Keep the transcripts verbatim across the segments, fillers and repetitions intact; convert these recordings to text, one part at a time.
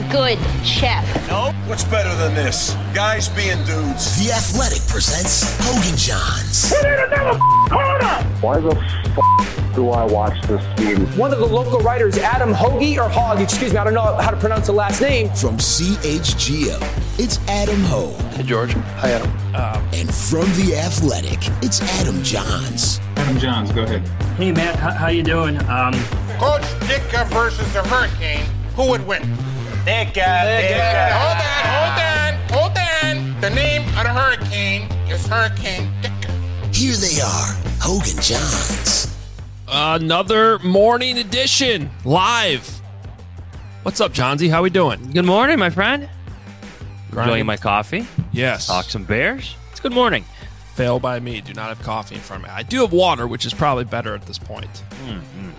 good chef. Nope. What's better than this? Guys being dudes. The Athletic presents Hogan Johns. We need another corner! Why the f*** do I watch this game? One of the local writers, Adam Hoagie, or Hogg, excuse me, I don't know how to pronounce the last name. From C H G O, it's Adam Hogue. Hey, George. Hi, Adam. Um, and from The Athletic, it's Adam Johns. Adam Johns, go ahead. Hey, Matt, how, how you doing? Um, Coach Ditka versus the Hurricane, who would win? Ditka, Ditka. Hold on, hold on, hold on. The name of the Hurricane is Hurricane Ditka. Here they are, Hogan Johns. Another morning edition, live. What's up, Johnsy? How we doing? Good morning, my friend. Grinding. Enjoying my coffee. Yes. Talk some Bears. It's good morning. Fail by me. Do not have coffee in front of me. I do have water, which is probably better at this point. Mm-hmm.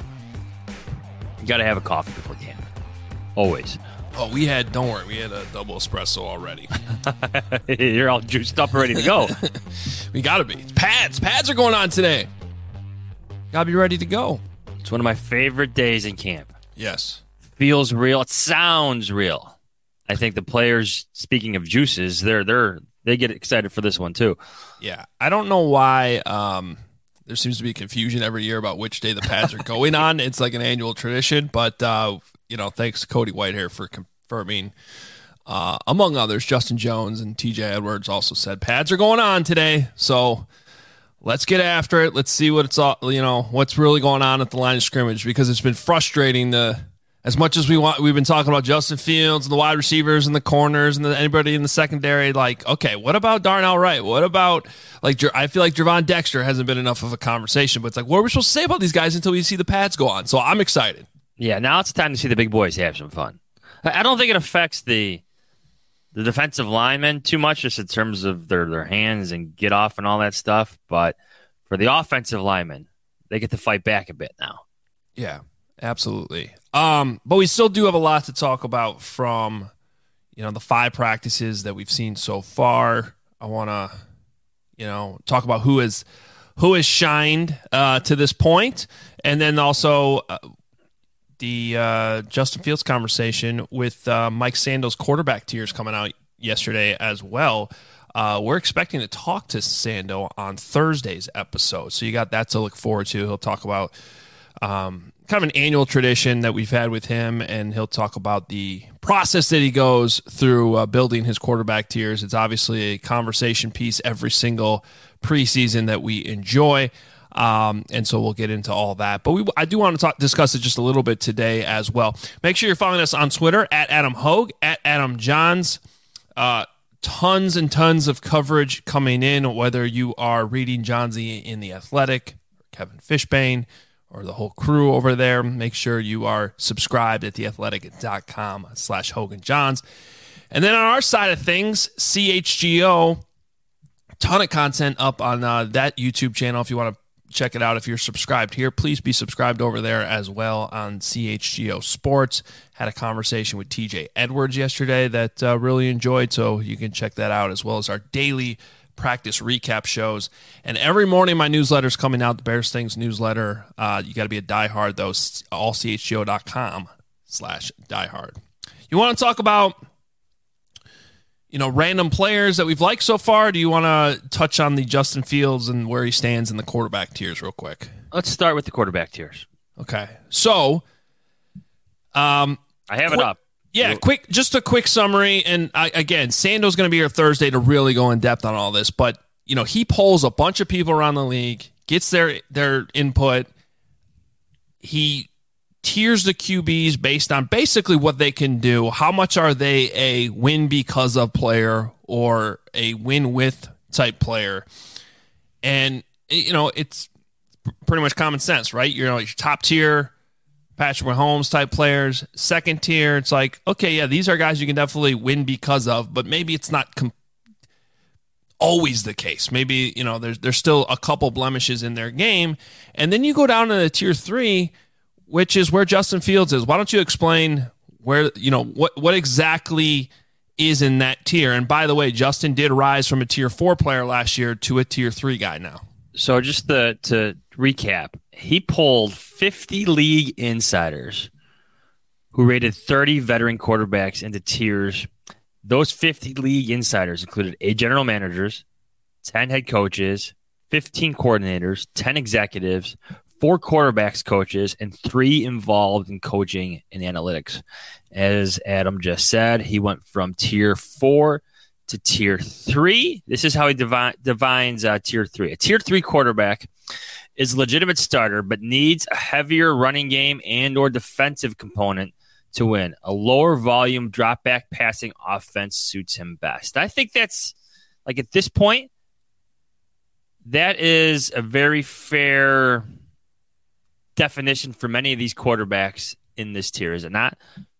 You got to have a coffee before camp. Always. Oh, we had, don't worry, we had a double espresso already. You're all juiced up and ready to go. We got to be. Pads. Pads are going on today. Got to be ready to go. It's one of my favorite days in camp. Yes. Feels real. It sounds real. I think the players, speaking of juices, they're they're they get excited for this one too. Yeah. I don't know why um, there seems to be confusion every year about which day the pads are going on. It's like an annual tradition, but uh, you know, thanks to Cody Whitehair for confirming. Uh, among others, Justin Jones and T J Edwards also said pads are going on today. So let's get after it. Let's see what it's all, you know, what's really going on at the line of scrimmage, because it's been frustrating to, as much as we want, we've been talking about Justin Fields and the wide receivers and the corners and the, anybody in the secondary. Like, okay, what about Darnell Wright? What about, like, I feel like Javon Dexter hasn't been enough of a conversation, but it's like, what are we supposed to say about these guys until we see the pads go on? So I'm excited. Yeah, now it's time to see the big boys have some fun. I don't think it affects the the defensive linemen too much, just in terms of their, their hands and get off and all that stuff. But for the offensive linemen, they get to fight back a bit now. Yeah, absolutely. Um, but we still do have a lot to talk about from, you know, the five practices that we've seen so far. I want to, you know, talk about who has who has shined uh, to this point, and then also uh, the uh, Justin Fields conversation with uh, Mike Sando's quarterback tiers coming out yesterday as well. Uh, we're expecting to talk to Sando on Thursday's episode, so you got that to look forward to. He'll talk about um, kind of an annual tradition that we've had with him, and he'll talk about the process that he goes through uh, building his quarterback tiers. It's obviously a conversation piece every single preseason that we enjoy. Um, and so we'll get into all that. But we, I do want to talk, discuss it just a little bit today as well. Make sure you're following us on Twitter, at Adam Hogue, at Adam Johns. Uh, tons and tons of coverage coming in, whether you are reading Johnsy in The Athletic, or Kevin Fishbane, or the whole crew over there. Make sure you are subscribed at theathletic.com slash Hogan Johns. And then on our side of things, C H G O, ton of content up on uh, that YouTube channel. If you want to check it out, if you're subscribed here, please be subscribed over there as well on C H G O Sports. Had a conversation with T J Edwards yesterday that uh, really enjoyed, so you can check that out, as well as our daily practice recap shows. And every morning my newsletter's coming out, the Bears Things newsletter. Uh, you got to be a diehard, though, all C H G O dot com slash diehard. You want to talk about, you know, random players that we've liked so far? Do you want to touch on the Justin Fields and where he stands in the quarterback tiers real quick? Let's start with the quarterback tiers. Okay. So, um, I have qu- it up. Yeah, quick, just a quick summary. And I, again, Sando's going to be here Thursday to really go in depth on all this. But, you know, he polls a bunch of people around the league, gets their their input. He tiers the Q Bs based on basically what they can do. How much are they a win because of player or a win with type player? And, you know, it's pretty much common sense, right? You know, your top tier, Patrick Mahomes type players. Second tier, it's like, okay, yeah, these are guys you can definitely win because of, but maybe it's not com- always the case. Maybe, you know, there's there's still a couple blemishes in their game. And then you go down to the tier three, which is where Justin Fields is. Why don't you explain where, you know, what what exactly is in that tier? And by the way, Justin did rise from a tier four player last year to a tier three guy now. So just the, to recap, he polled fifty league insiders who rated thirty veteran quarterbacks into tiers. Those fifty league insiders included eight general managers, ten head coaches, fifteen coordinators, ten executives, four quarterbacks coaches, and three involved in coaching and analytics. As Adam just said, he went from tier four to tier three. This is how he divi- defines uh, tier three. A tier three quarterback is a legitimate starter, but needs a heavier running game and or defensive component to win. A lower volume drop back passing offense suits him best. I think that's, like, at this point, that is a very fair definition for many of these quarterbacks in this tier, is it not?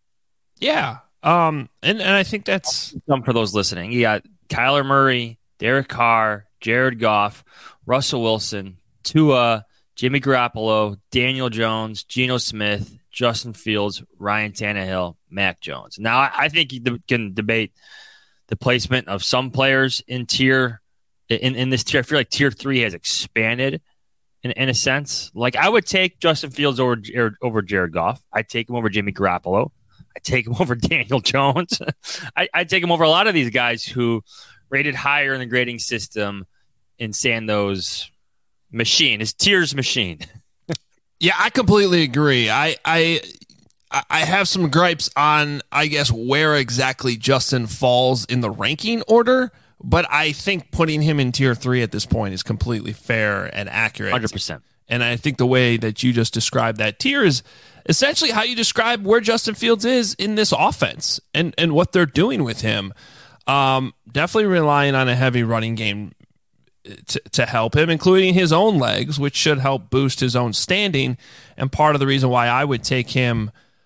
Yeah. Um, and, and I think that's some for those listening. You got Kyler Murray, Derek Carr, Jared Goff, Russell Wilson, Tua, Jimmy Garoppolo, Daniel Jones, Geno Smith, Justin Fields, Ryan Tannehill, Mac Jones. Now, I, I think you can debate the placement of some players in tier in, in this tier. I feel like tier three has expanded in, in a sense. Like, I would take Justin Fields over over Jared Goff. I'd take him over Jimmy Garoppolo. I'd take him over Daniel Jones. I, I'd take him over a lot of these guys who rated higher in the grading system in Sando's machine, his tiers machine. Yeah, I completely agree. I I I have some gripes on, I guess, where exactly Justin falls in the ranking order, but I think putting him in tier three at this point is completely fair and accurate. one hundred percent. And I think the way that you just described that tier is essentially how you describe where Justin Fields is in this offense and, and what they're doing with him. Um, definitely relying on a heavy running game to, to help him, including his own legs, which should help boost his own standing. And part of the reason why I would take him,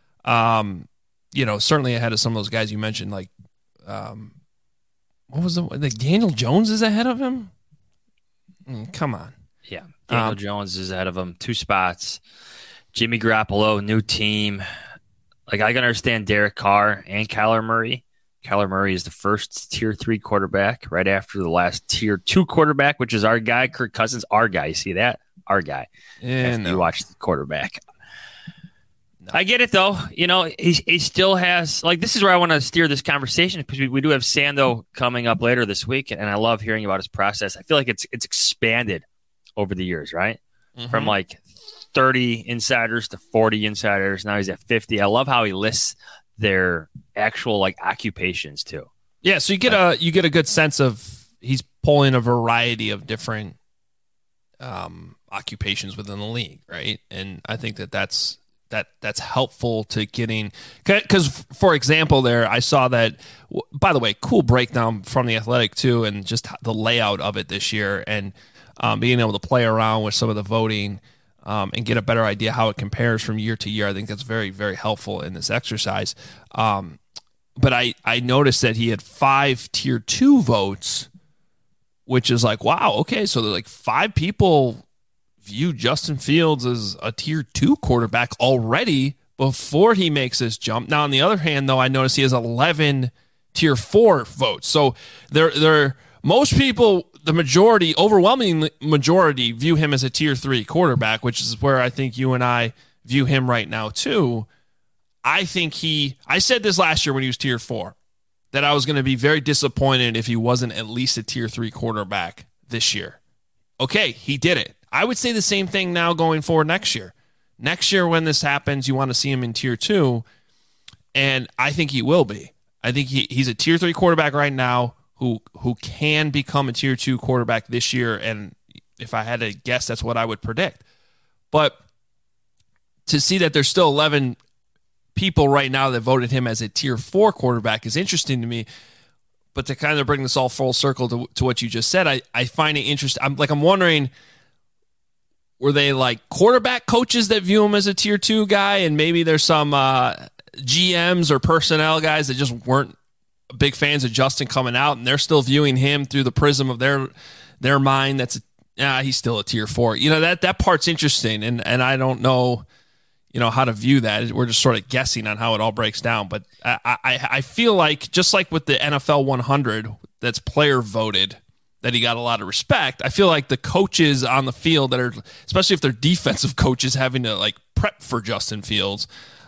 um, you know, certainly ahead of some of those guys you mentioned, like, um, what was the, like Daniel Jones is ahead of him? I mean, come on. Yeah. Daniel Um, Jones is ahead of him, two spots. Jimmy Garoppolo, new team. Like, I can understand Derek Carr and Kyler Murray. Kyler Murray is the first tier three quarterback right after the last tier two quarterback, which is our guy, Kirk Cousins. Our guy. You see that? Our guy. Yeah, After no. you watch the quarterback. No. I get it, though. You know, he, he still has, like, this is where I want to steer this conversation, because we, we do have Sando coming up later this week, and I love hearing about his process. I feel like it's it's expanded over the years, right? Mm-hmm. From like thirty insiders to forty insiders. Now he's at fifty. I love how he lists their actual, like, occupations too. Yeah, so you get a you get a good sense of he's pulling a variety of different um, occupations within the league, right? And I think that that's that that's helpful to getting, because, for example, there I saw that. By the way, cool breakdown from the Athletic too, and just the layout of it this year, and um, being able to play around with some of the voting. Um, and get a better idea how it compares from year to year. I think that's very, very helpful in this exercise. Um, but I, I noticed that he had five tier two votes, which is like, wow, okay, so like five people view Justin Fields as a tier two quarterback already before he makes this jump. Now, on the other hand, though, I noticed he has eleven tier four votes. So there, there, most people, the majority, overwhelming majority, view him as a tier three quarterback, which is where I think you and I view him right now too. I think he, I said this last year when he was tier four, that I was going to be very disappointed if he wasn't at least a tier three quarterback this year. Okay, he did it. I would say the same thing now going forward next year. Next year when this happens, you want to see him in tier two, and I think he will be. I think he, he's a tier three quarterback right now, who who can become a tier two quarterback this year, and if I had to guess, that's what I would predict. But to see that there's still eleven people right now that voted him as a tier four quarterback is interesting to me. But to kind of bring this all full circle to, to what you just said, I, I find it interesting. I'm like I'm wondering, were they like quarterback coaches that view him as a tier two guy, and maybe there's some uh, G Ms or personnel guys that just weren't big fans of Justin coming out, and they're still viewing him through the prism of their their mind. That's a, yeah, he's still a tier four. You know, that that part's interesting, and and I don't know, you know, how to view that. We're just sort of guessing on how it all breaks down. But I I, I feel like, just like with the N F L one hundred, that's player voted, that he got a lot of respect. I feel like the coaches on the field that are, especially if they're defensive coaches, having to like prep for Justin Fields,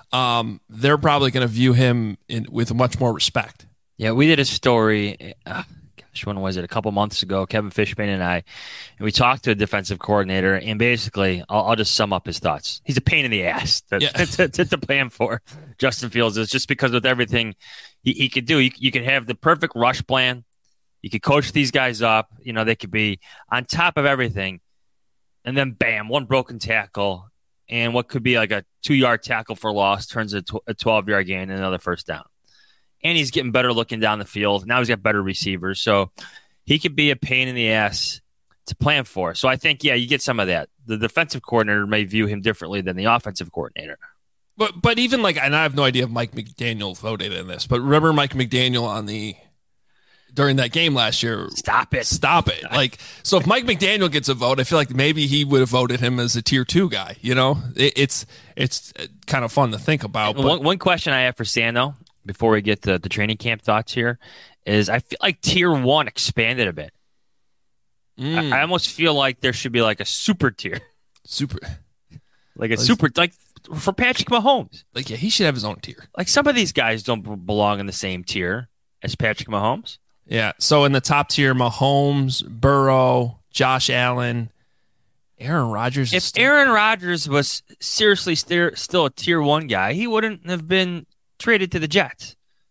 um, they're probably going to view him in, with much more respect. Yeah, we did a story, uh, gosh, when was it? A couple months ago, Kevin Fishman and I, and we talked to a defensive coordinator, and basically, I'll, I'll just sum up his thoughts. He's a pain in the ass to, yeah. to, to, to plan for. Justin Fields is just because with everything he, he could do, you, you could have the perfect rush plan. You could coach these guys up. You know, they could be on top of everything. And then, bam, one broken tackle. And what could be like a two-yard tackle for loss turns into a twelve-yard gain and another first down. And he's getting better looking down the field. Now he's got better receivers. So he could be a pain in the ass to plan for. So I think, yeah, you get some of that. The defensive coordinator may view him differently than the offensive coordinator. But but even like, and I have no idea if Mike McDaniel voted in this, but remember Mike McDaniel on the during that game last year? Stop it. Stop it. Like, so if Mike McDaniel gets a vote, I feel like maybe he would have voted him as a tier two guy. You know, it, it's it's kind of fun to think about. But. One, one question I have for Sam, though, before we get to the training camp thoughts here, is I feel like tier one expanded a bit. Mm. I, I almost feel like there should be like a super tier. Super. Like a like, super, like for Patrick Mahomes. Like, yeah, he should have his own tier. Like some of these guys don't b- belong in the same tier as Patrick Mahomes. Yeah, so in the top tier, Mahomes, Burrow, Josh Allen, Aaron Rodgers. If still- Aaron Rodgers was seriously st- still a tier one guy, he wouldn't have been traded to the Jets.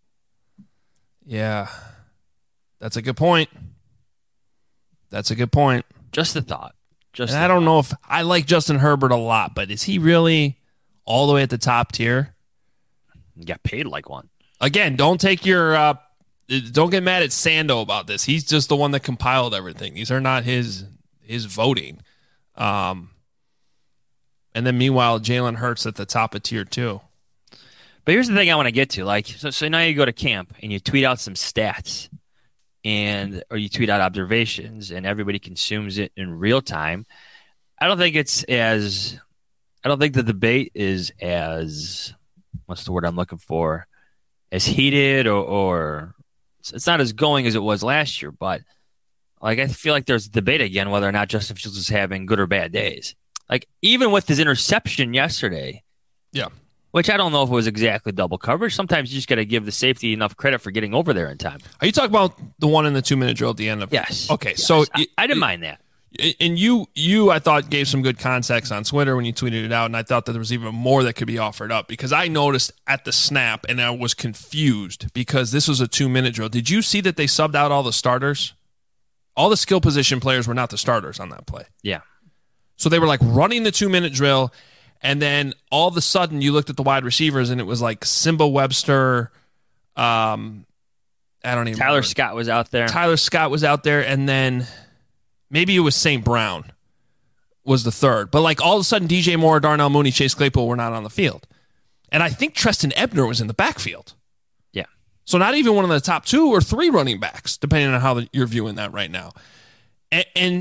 Yeah, that's a good point. That's a good point. Just a thought. Just and I don't thought. know if I like Justin Herbert a lot, but is he really all the way at the top tier? He got paid like one. Again, don't take your uh, don't get mad at Sando about this. He's just the one that compiled everything. These are not his his voting. Um, and then meanwhile, Jalen Hurts at the top of tier two. But here's the thing I want to get to. Like, so, so now you go to camp and you tweet out some stats, and or you tweet out observations, and everybody consumes it in real time. I don't think it's as. I don't think the debate is as. What's the word I'm looking for? As heated or, or it's not as going as it was last year, but like I feel like there's a debate again whether or not Justin Fields is having good or bad days. Like even with his interception yesterday, yeah, which I don't know if it was exactly double coverage. Sometimes you just got to give the safety enough credit for getting over there in time. Are you talking about the one in the two minute drill at the end of? Yes. Okay, yes. so I, it, I didn't it, mind that. And you, you, I thought gave some good context on Twitter when you tweeted it out, and I thought that there was even more that could be offered up because I noticed at the snap and I was confused because this was a two-minute drill. Did you see that they subbed out all the starters? All the skill position players were not the starters on that play. Yeah. So they were like running the two-minute drill, and then all of a sudden you looked at the wide receivers and it was like Simba Webster. Um, I don't even. Tyler remember. Scott was out there. Tyler Scott was out there, and then. Maybe it was Saint Brown was the third. But like all of a sudden, D J Moore, Darnell Mooney, Chase Claypool were not on the field. And I think Treston Ebner was in the backfield. Yeah. So not even one of the top two or three running backs, depending on how the, you're viewing that right now. And, and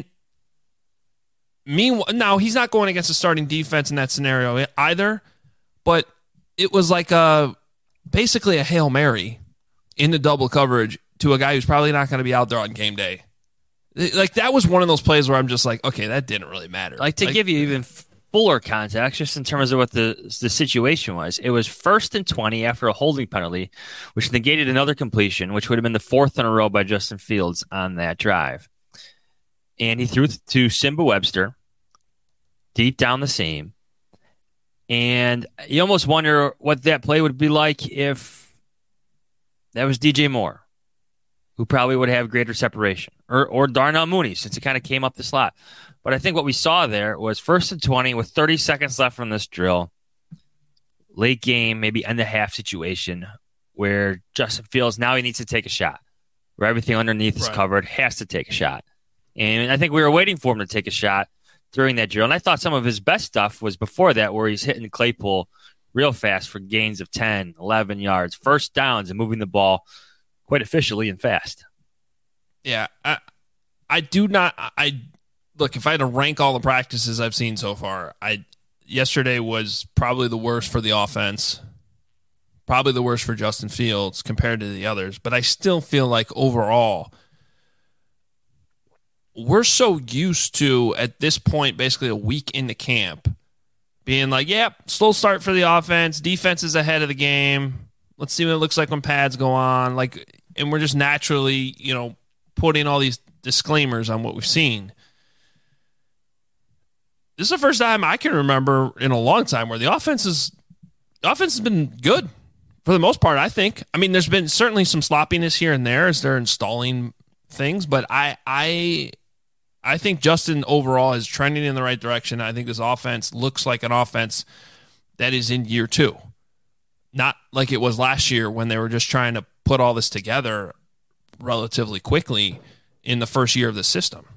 meanwhile, now he's not going against a starting defense in that scenario either. But it was like a basically a Hail Mary in the double coverage to a guy who's probably not going to be out there on game day. Like, that was one of those plays where I'm just like, okay, that didn't really matter. Like, to like, give you even fuller context, just in terms of what the the situation was, it was first and twenty after a holding penalty, which negated another completion, which would have been the fourth in a row by Justin Fields on that drive. And he threw to Simba Webster, deep down the seam. And you almost wonder what that play would be like if that was D J Moore, who probably would have greater separation, or or Darnell Mooney, since it kind of came up the slot. But I think what we saw there was first and twenty with thirty seconds left from this drill, late game, maybe end of half situation, where Justin Fields, now he needs to take a shot, where everything underneath is right. covered, has to take a shot. And I think we were waiting for him to take a shot during that drill. And I thought some of his best stuff was before that, where he's hitting Claypool real fast for gains of ten, eleven yards, first downs, and moving the ball quite efficiently and fast. Yeah, I, I do not. I look, if I had to rank all the practices I've seen so far, I yesterday was probably the worst for the offense, probably the worst for Justin Fields compared to the others. But I still feel like overall, we're so used to at this point, basically a week into camp, being like, yeah, slow start for the offense. Defense is ahead of the game. Let's see what it looks like when pads go on. Like, and we're just naturally, you know, putting all these disclaimers on what we've seen. This is the first time I can remember in a long time where the offense is the offense has been good for the most part, I think. I mean, there's been certainly some sloppiness here and there as they're installing things, but I I I think Justin overall is trending in the right direction. I think this offense looks like an offense that is in year two. Not like it was last year when they were just trying to put all this together relatively quickly in the first year of the system.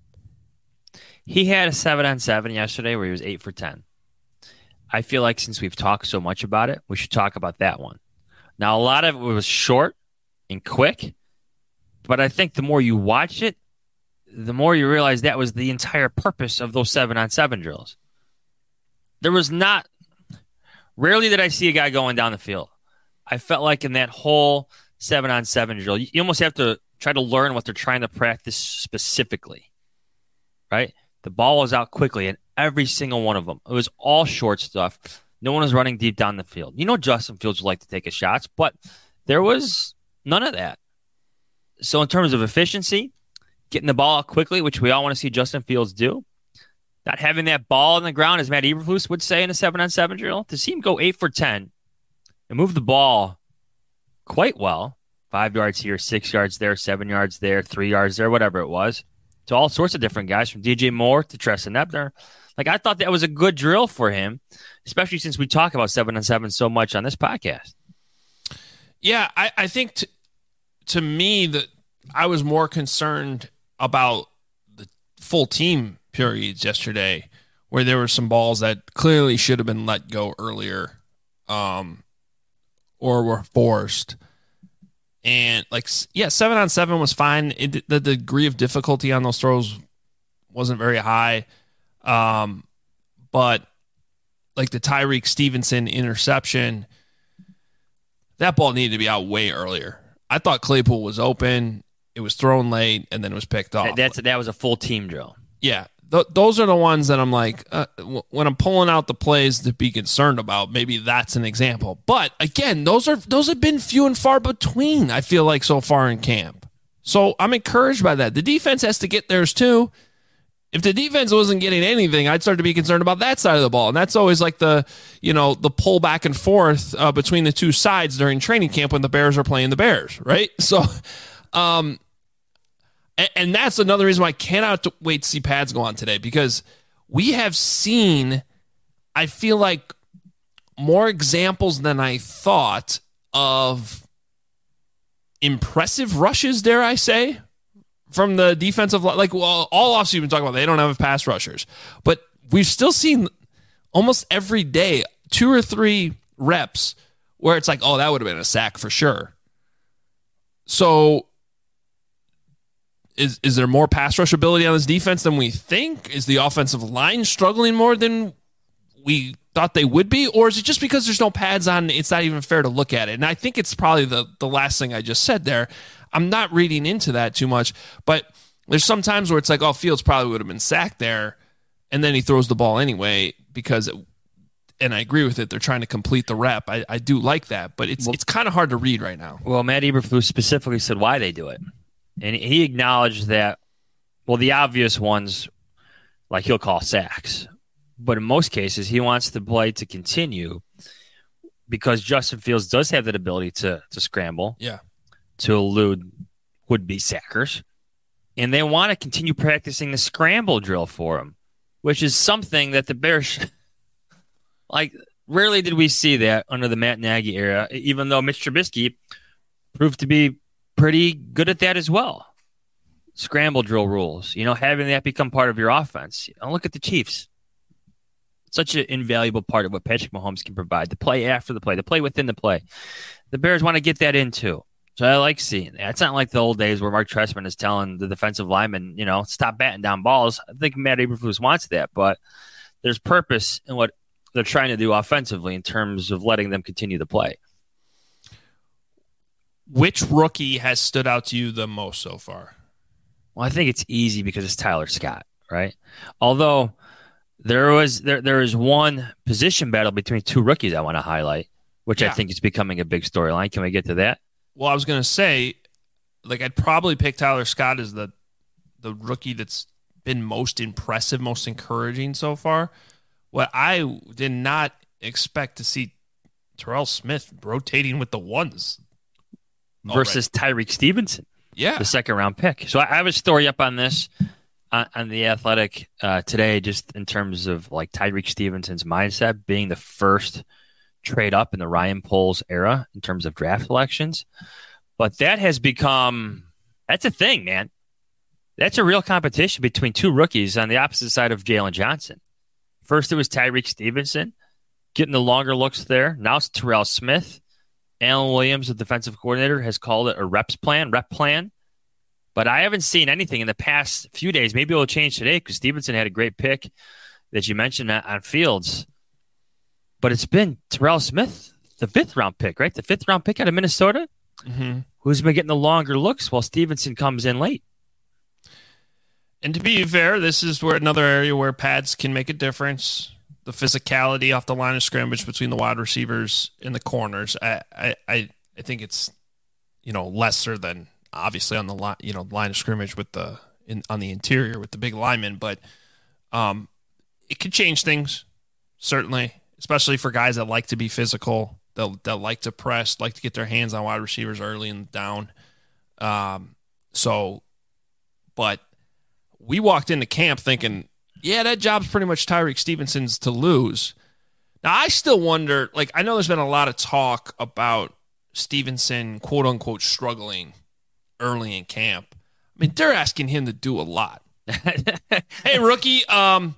He had a seven on seven yesterday where he was eight for ten. I feel like since we've talked so much about it, we should talk about that one. Now, a lot of it was short and quick, but I think the more you watch it, the more you realize that was the entire purpose of those seven on seven drills. There was not, rarely did I see a guy going down the field. I felt like in that whole seven on seven drill, you almost have to try to learn what they're trying to practice specifically, right? The ball was out quickly in every single one of them. It was all short stuff. No one was running deep down the field. You know Justin Fields would like to take his shots, but there was none of that. So in terms of efficiency, getting the ball out quickly, which we all want to see Justin Fields do, not having that ball on the ground, as Matt Eberflus would say in a seven on seven drill, to see him go eight for ten and move the ball quite well, five yards here, six yards there, seven yards there, three yards there, whatever it was, to all sorts of different guys, from D J Moore to Treston Ebner. Like, I thought that was a good drill for him, especially since we talk about seven on seven so much on this podcast. Yeah, I, I think t- to me that I was more concerned about the full team periods yesterday, where there were some balls that clearly should have been let go earlier, um, or were forced. And like, yeah, seven on seven was fine. It, the degree of difficulty on those throws wasn't very high. Um, but like the Tyreek Stevenson interception, that ball needed to be out way earlier. I thought Claypool was open. It was thrown late and then it was picked off. That's, that was a full team drill. Yeah. Th- those are the ones that I'm like, uh, w- when I'm pulling out the plays to be concerned about, maybe that's an example. But again, those are those have been few and far between, I feel like, so far in camp. So I'm encouraged by that. The defense has to get theirs too. If the defense wasn't getting anything, I'd start to be concerned about that side of the ball. And that's always like the, you know, the pull back and forth uh, between the two sides during training camp when the Bears are playing the Bears, right? So, um, and, and that's another reason why I cannot wait to see pads go on today, because we have seen, I feel like, more examples than I thought of impressive rushes, dare I say, from the defensive line. Like, well, all offseason we've been talking about they don't have pass rushers, but we've still seen almost every day two or three reps where it's like, oh, that would have been a sack for sure. So is is there more pass rush ability on this defense than we think? Is the offensive line struggling more than we thought they would be? Or is it just because there's no pads on, it's not even fair to look at it? And I think it's probably the, the last thing I just said there. I'm not reading into that too much, but there's some times where it's like, oh, Fields probably would have been sacked there, and then he throws the ball anyway because, it, and I agree with it, they're trying to complete the rep. I, I do like that, but it's well, it's kind of hard to read right now. Well, Matt Eberflus specifically said why they do it, and he acknowledged that, well, the obvious ones, like he'll call sacks, but in most cases he wants the play to continue because Justin Fields does have that ability to to scramble. Yeah. To elude would-be sackers. And they want to continue practicing the scramble drill for him, which is something that the Bears, like, rarely did we see that under the Matt Nagy era, even though Mitch Trubisky proved to be pretty good at that as well. Scramble drill rules, you know, having that become part of your offense. And look at the Chiefs. Such an invaluable part of what Patrick Mahomes can provide, the play after the play, the play within the play. The Bears want to get that in too. So I like seeing that. It's not like the old days where Mark Trestman is telling the defensive lineman, you know, stop batting down balls. I think Matt Eberflus wants that, but there's purpose in what they're trying to do offensively in terms of letting them continue to play. Which rookie has stood out to you the most so far? Well, I think it's easy because it's Tyler Scott, right? Although There was there there is one position battle between two rookies I want to highlight, which yeah. I think is becoming a big storyline. Can we get to that? Well, I was going to say, like, I'd probably pick Tyler Scott as the the rookie that's been most impressive, most encouraging so far. What I did not expect to see Terrell Smith rotating with the ones versus Tyreek Stevenson. Yeah, the second round pick. So I have a story up on this on, on the Athletic uh, today, just in terms of like Tyreek Stevenson's mindset being the first trade up in the Ryan Poles era in terms of draft selections. But that has become that's a thing, man. That's a real competition between two rookies on the opposite side of Jalen Johnson. First, it was Tyreek Stevenson getting the longer looks there. Now it's Terrell Smith. Alan Williams, the defensive coordinator, has called it a reps plan, rep plan. But I haven't seen anything in the past few days. Maybe it'll change today because Stevenson had a great pick that you mentioned on Fields. But it's been Terrell Smith, the fifth round pick, right? The fifth round pick out of Minnesota, mm-hmm. who's been getting the longer looks while Stevenson comes in late. And to be fair, this is where another area where pads can make a difference. The physicality off the line of scrimmage between the wide receivers and the corners. I, I, I think it's, you know, lesser than obviously on the line, you know, line of scrimmage with the in on the interior with the big linemen, but um, it could change things certainly, especially for guys that like to be physical, that that like to press, like to get their hands on wide receivers early and down. Um, so, but we walked into camp thinking, yeah, that job's pretty much Tyreek Stevenson's to lose. Now, I still wonder, like, I know there's been a lot of talk about Stevenson, quote unquote, struggling early in camp. I mean, they're asking him to do a lot. Hey, rookie, um,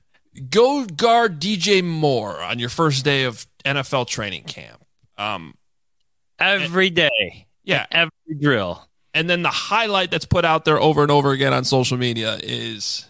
go guard D J Moore on your first day of N F L training camp. Um, every and, day. Yeah. Every drill. And then the highlight that's put out there over and over again on social media is,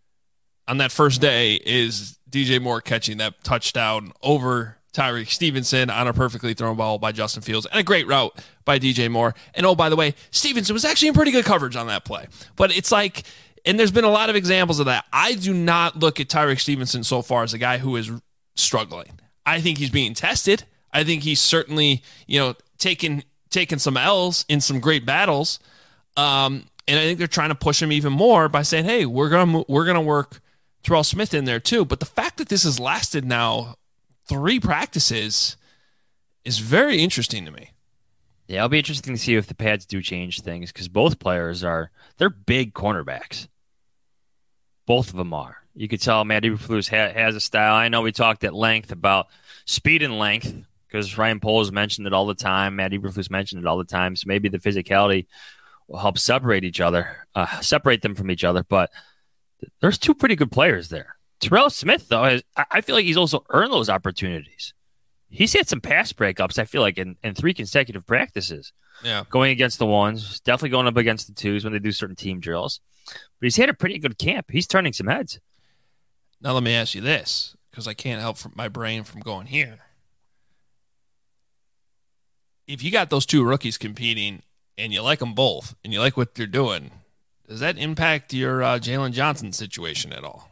on that first day, is D J Moore catching that touchdown over Tyreek Stevenson on a perfectly thrown ball by Justin Fields and a great route by D J Moore. And oh, by the way, Stevenson was actually in pretty good coverage on that play. But it's like, and there's been a lot of examples of that. I do not look at Tyreek Stevenson so far as a guy who is struggling. I think he's being tested. I think he's certainly, you know, taking taking some L's in some great battles. Um, and I think they're trying to push him even more by saying, hey, we're gonna we're gonna work Terrell Smith in there too. But the fact that this has lasted now three practices is very interesting to me. Yeah, it'll be interesting to see if the pads do change things because both players are, they're big cornerbacks. Both of them are. You could tell Matt Eberflus ha- has a style. I know we talked at length about speed and length because Ryan Poles mentioned it all the time. Matt Eberflus mentioned it all the time. So maybe the physicality will help separate each other, uh, separate them from each other. But there's two pretty good players there. Terrell Smith, though, has, I feel like he's also earned those opportunities. He's had some pass breakups, I feel like, in, in three consecutive practices. Yeah. Going against the ones, definitely going up against the twos when they do certain team drills. But he's had a pretty good camp. He's turning some heads. Now let me ask you this, because I can't help from my brain from going here. If you got those two rookies competing and you like them both and you like what they're doing, does that impact your uh, Jalen Johnson situation at all?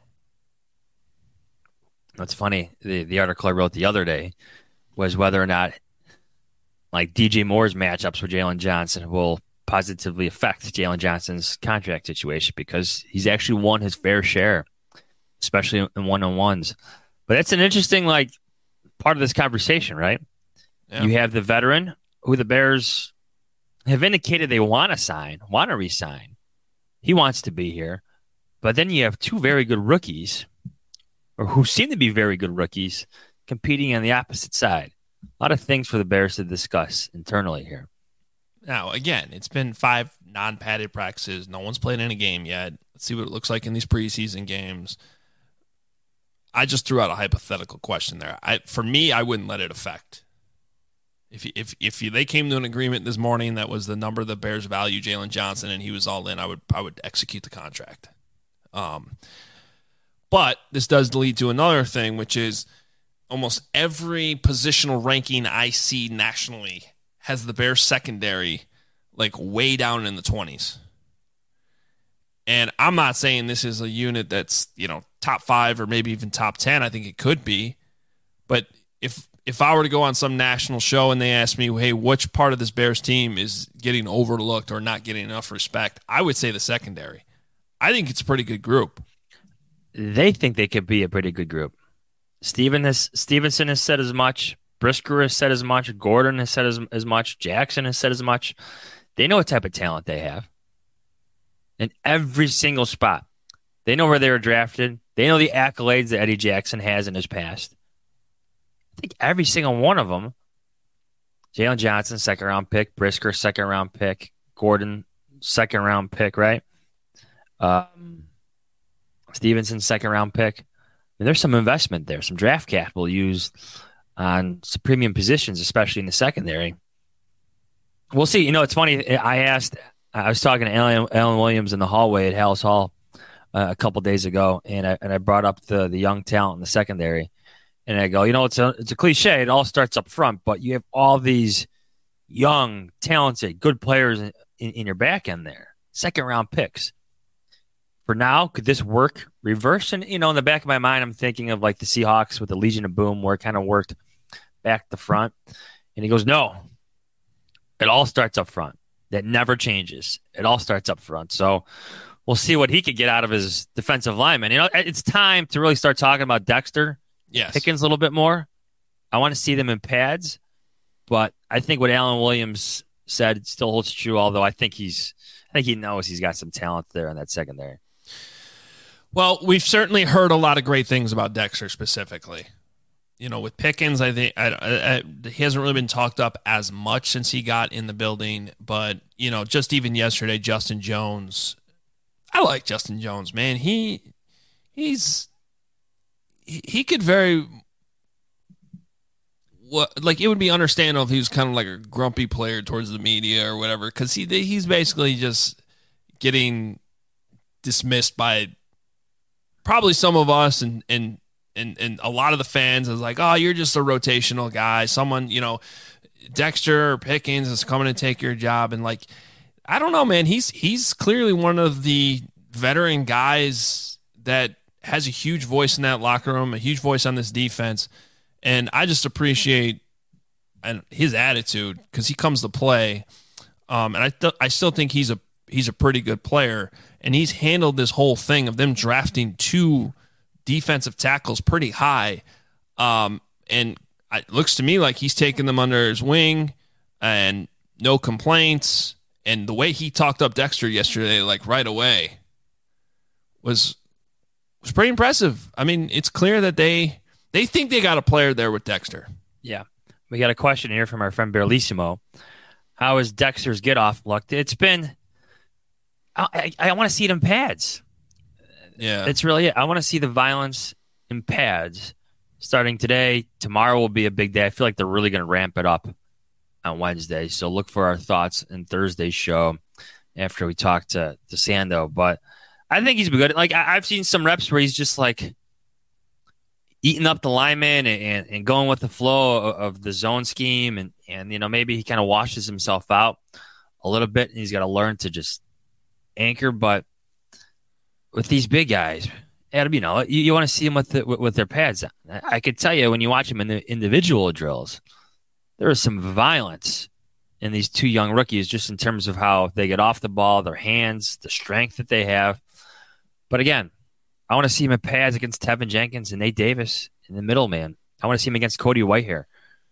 That's funny. The the article I wrote the other day was whether or not like D J Moore's matchups with Jalen Johnson will positively affect Jalen Johnson's contract situation because he's actually won his fair share, especially in one-on-ones. But that's an interesting like part of this conversation, right? Yeah. You have the veteran who the Bears have indicated they want to sign, want to re-sign. He wants to be here. But then you have two very good rookies, or who seem to be very good rookies, competing on the opposite side. A lot of things for the Bears to discuss internally here. Now, again, it's been five non-padded practices. No one's played in a game yet. Let's see what it looks like in these preseason games. I just threw out a hypothetical question there. I, for me, I wouldn't let it affect. If if if you, they came to an agreement this morning that was the number the Bears value Jalen Johnson and he was all in, I would I would execute the contract. Um, but this does lead to another thing, which is almost every positional ranking I see nationally has the Bears secondary like way down in the twenties. And I'm not saying this is a unit that's, you know, top five or maybe even top ten. I think it could be. But if if I were to go on some national show and they asked me, hey, which part of this Bears team is getting overlooked or not getting enough respect, I would say the secondary. I think it's a pretty good group. They think they could be a pretty good group. Steven has, Stevenson has said as much. Brisker has said as much. Gordon has said as, as much. Jackson has said as much. They know what type of talent they have. In every single spot. They know where they were drafted. They know the accolades that Eddie Jackson has in his past. I think every single one of them, Jalen Johnson, second round pick, Brisker, second round pick, Gordon, second round pick, right? Um, Stevenson, second round pick. And there's some investment there, some draft capital used on some premium positions, especially in the secondary. We'll see. You know, it's funny. I asked, I was talking to Alan, Alan Williams in the hallway at Hallis Hall uh, a couple days ago, and I and I brought up the the young talent in the secondary. And I go, you know, it's a it's a cliche. It all starts up front, but you have all these young, talented, good players in, in, in your back end there. Second round picks. For now, could this work reverse? And, you know, in the back of my mind, I'm thinking of like the Seahawks with the Legion of Boom, where it kind of worked back to front. And he goes, no, it all starts up front. That never changes. It all starts up front. So we'll see what he could get out of his defensive lineman. You know, it's time to really start talking about Dexter. Yes. Pickens a little bit more. I want to see them in pads, but I think what Alan Williams said still holds true, although I think he's I think he knows he's got some talent there in that secondary. Well, we've certainly heard a lot of great things about Dexter specifically. You know, with Pickens, I think I, I, I, he hasn't really been talked up as much since he got in the building, but, you know, just even yesterday, Justin Jones, I like Justin Jones, man. He he's he could very, what like it would be understandable if he was kind of like a grumpy player towards the media or whatever, because he he's basically just getting dismissed by probably some of us and and and and a lot of the fans is like, oh, you're just a rotational guy. Someone, you know, Dexter or Pickens is coming to take your job, and like, I don't know, man. He's he's clearly one of the veteran guys that has a huge voice in that locker room, a huge voice on this defense. And I just appreciate and his attitude because he comes to play. Um, and I th- I still think he's a he's a pretty good player. And he's handled this whole thing of them drafting two defensive tackles pretty high. Um, and it looks to me like he's taken them under his wing and no complaints. And the way he talked up Dexter yesterday, like right away, was was pretty impressive. I mean, it's clear that they they think they got a player there with Dexter. Yeah. We got a question here from our friend Berlissimo. How is Dexter's get-off looked? It's been I, I, I want to see it in pads. Yeah. It's really it. I want to see the violence in pads starting today. Tomorrow will be a big day. I feel like they're really going to ramp it up on Wednesday. So look for our thoughts in Thursday's show after we talk to, to Sando. But I think he's been good. Like, I, I've seen some reps where he's just like eating up the lineman and, and, and going with the flow of, of the zone scheme. And, and, you know, maybe he kind of washes himself out a little bit and he's got to learn to just anchor. But with these big guys, Adam, you know, you, you want to see them with, the, with, with their pads on. I, I could tell you when you watch them in the individual drills, there is some violence in these two young rookies just in terms of how they get off the ball, their hands, the strength that they have. But again, I want to see him in pads against Tevin Jenkins and Nate Davis in the middle, man. I want to see him against Cody Whitehair.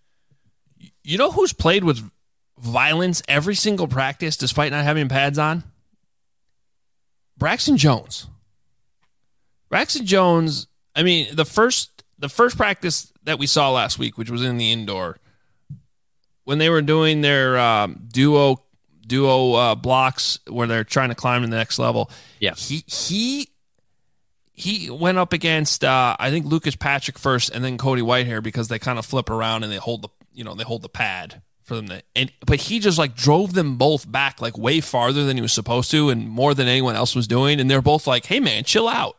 You know who's played with violence every single practice despite not having pads on? Braxton Jones. Braxton Jones, I mean, the first the first practice that we saw last week, which was in the indoor, when they were doing their um, duo duo uh, blocks where they're trying to climb to the next level, yeah, he he he went up against uh, I think Lucas Patrick first, and then Cody Whitehair because they kind of flip around and they hold the you know they hold the pad for them to, and but he just like drove them both back like way farther than he was supposed to, and more than anyone else was doing, and they're both like, "Hey man, chill out."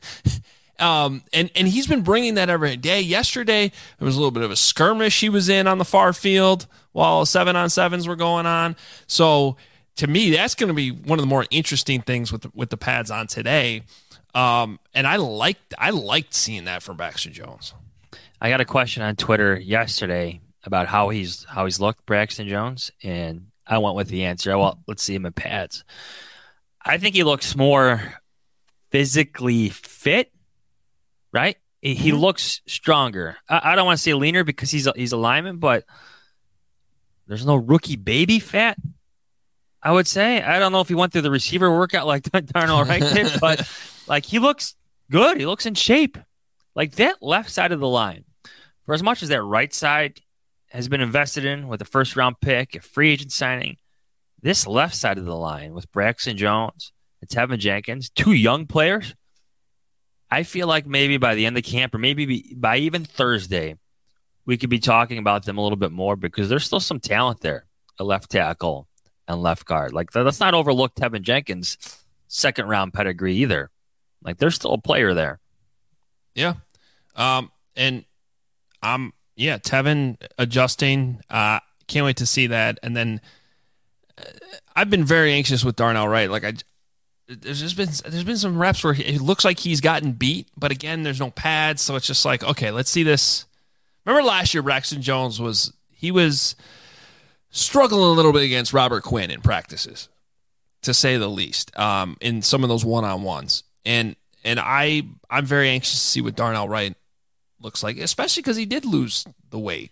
Um, and, and he's been bringing that every day. Yesterday, there was a little bit of a skirmish he was in on the far field while seven on sevens were going on. So to me, that's going to be one of the more interesting things with the, with the pads on today. Um, and I liked I liked seeing that from Braxton Jones. I got a question on Twitter yesterday about how he's how he's looked, Braxton Jones, and I went with the answer. Well, let's see him in pads. I think he looks more physically fit, right? He mm-hmm. looks stronger. I, I don't want to say leaner because he's a, he's a lineman, but there's no rookie baby fat, I would say. I don't know if he went through the receiver workout like Darnell Wright did, but like he looks good. He looks in shape. Like that left side of the line, for as much as that right side has been invested in with a first round pick, a free agent signing, this left side of the line with Braxton Jones and Tevin Jenkins, two young players, I feel like maybe by the end of camp or maybe by even Thursday, we could be talking about them a little bit more because there's still some talent there, a left tackle and left guard. Like, let's not overlook Tevin Jenkins' second round pedigree either. Like, there's still a player there. Yeah. Um, and I'm, yeah, Tevin adjusting. Uh, can't wait to see that. And then uh, I've been very anxious with Darnell Wright. Like, I, there's just been, there's been some reps where it looks like he's gotten beat, but again, there's no pads. So it's just like, okay, let's see this. Remember last year, Braxton Jones was, he was struggling a little bit against Robert Quinn in practices, to say the least, um, in some of those one-on-ones. And, and I, I'm very anxious to see what Darnell Wright looks like, especially because he did lose the weight.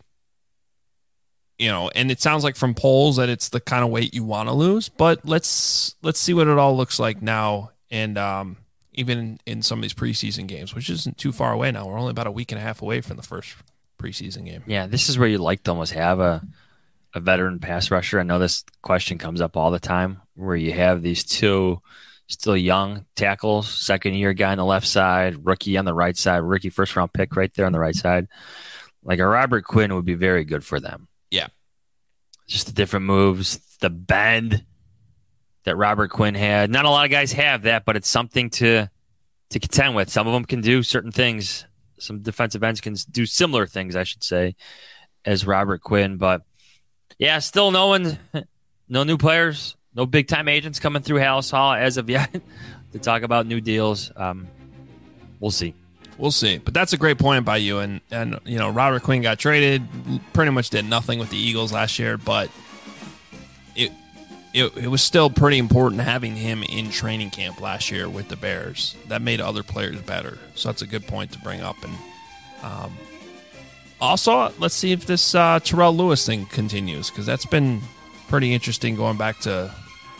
You know, and it sounds like from polls that it's the kind of weight you want to lose, but let's let's see what it all looks like now. And um, even in, in some of these preseason games, which isn't too far away now. We're only about a week and a half away from the first preseason game. Yeah, this is where you'd like to almost have a, a veteran pass rusher. I know this question comes up all the time where you have these two still young tackles, second year guy on the left side, rookie on the right side, rookie first round pick right there on the right side. Like a Robert Quinn would be very good for them. Yeah. Just the different moves, the bend that Robert Quinn had. Not a lot of guys have that, but it's something to to contend with. Some of them can do certain things. Some defensive ends can do similar things, I should say, as Robert Quinn. But, yeah, still no one, no new players, no big-time agents coming through Halas Hall as of yet to talk about new deals. Um, we'll see. We'll see. But that's a great point by you. And, and, you know, Robert Quinn got traded, pretty much did nothing with the Eagles last year, but it, it it was still pretty important having him in training camp last year with the Bears. That made other players better. So that's a good point to bring up. And um, also, let's see if this uh, Terrell Lewis thing continues, because that's been pretty interesting going back to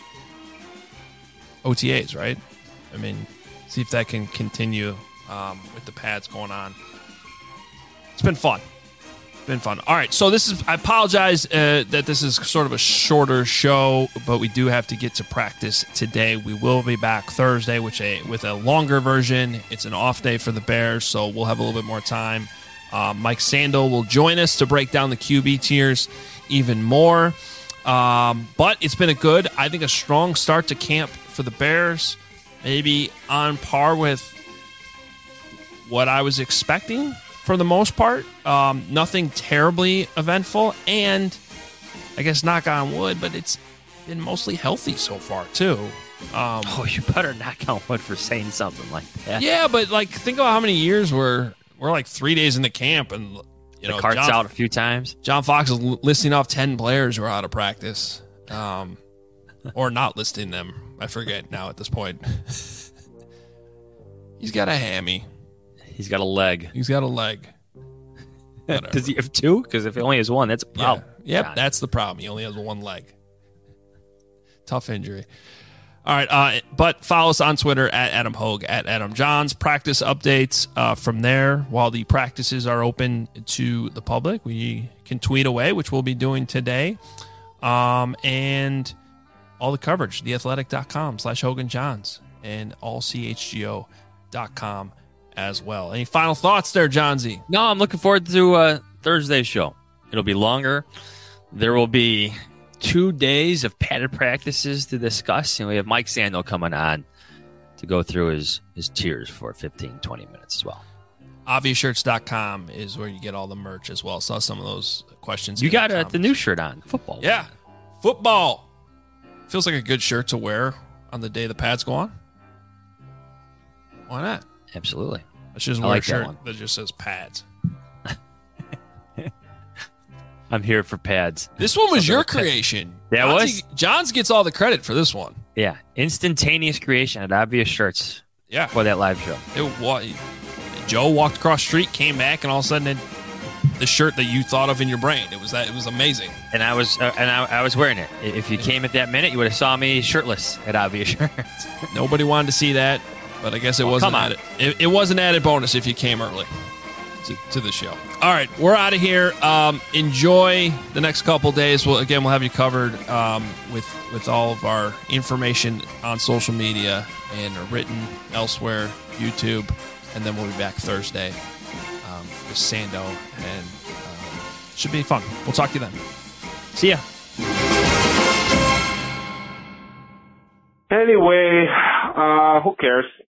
O T As, right? I mean, see if that can continue. Um, with the pads going on. It's been fun. It's been fun. All right, so this is, I apologize uh, that this is sort of a shorter show, but we do have to get to practice today. We will be back Thursday which a, with a longer version. It's an off day for the Bears, so we'll have a little bit more time. Uh, Mike Sandel will join us to break down the Q B tiers even more. Um, but it's been a good, I think a strong start to camp for the Bears. Maybe on par with what I was expecting for the most part. Um, nothing terribly eventful, and I guess knock on wood, but it's been mostly healthy so far too. Um, oh, you better knock on wood for saying something like that. Yeah, but like think about how many years we're we're like three days into camp, and you the know, cart's John, out a few times. John Fox is listing off ten players who are out of practice, um, or not listing them. I forget now at this point. He's got a hammy. He's got a leg. He's got a leg. Does he have two? Because if he only has one, that's a problem. Yeah. Yep, God. That's the problem. He only has one leg. Tough injury. All right, uh, but follow us on Twitter at Adam Hogue, at Adam Johns. Practice updates uh, from there. While the practices are open to the public, we can tweet away, which we'll be doing today. Um, and all the coverage, theathletic.com slash Hogan Johns and all C H G O dot com. As well. Any final thoughts there, Johnsy? No, I'm looking forward to uh, Thursday's show. It'll be longer. There will be two days of padded practices to discuss, and we have Mike Sandel coming on to go through his, his tiers for fifteen, twenty minutes as well. obvious shirts dot com is where you get all the merch as well. Saw some of those questions. You got uh, the new shirt on, football. Yeah, football. Feels like a good shirt to wear on the day the pads go on. Why not? Absolutely. I should just I wear like a shirt that, that, that just says pads. I'm here for pads. This one was Something your like that. creation. Yeah, it Johns, was. Johns gets all the credit for this one. Yeah. Instantaneous creation at Obvious Shirts Yeah. for that live show. It was. Joe walked across the street, came back, and all of a sudden, it, the shirt that you thought of in your brain. It was that. It was amazing. And I was uh, and I, I was wearing it. If you came at that minute, you would have saw me shirtless at Obvious Shirts. Nobody wanted to see that, but I guess it Well, wasn't come on. added. It, it was an added bonus if you came early to, to the show. All right, we're out of here. Um, enjoy the next couple days. We'll again we'll have you covered um, with with all of our information on social media and written elsewhere, YouTube, and then we'll be back Thursday um, with Sando, and uh, should be fun. We'll talk to you then. See ya. Anyway, uh, who cares?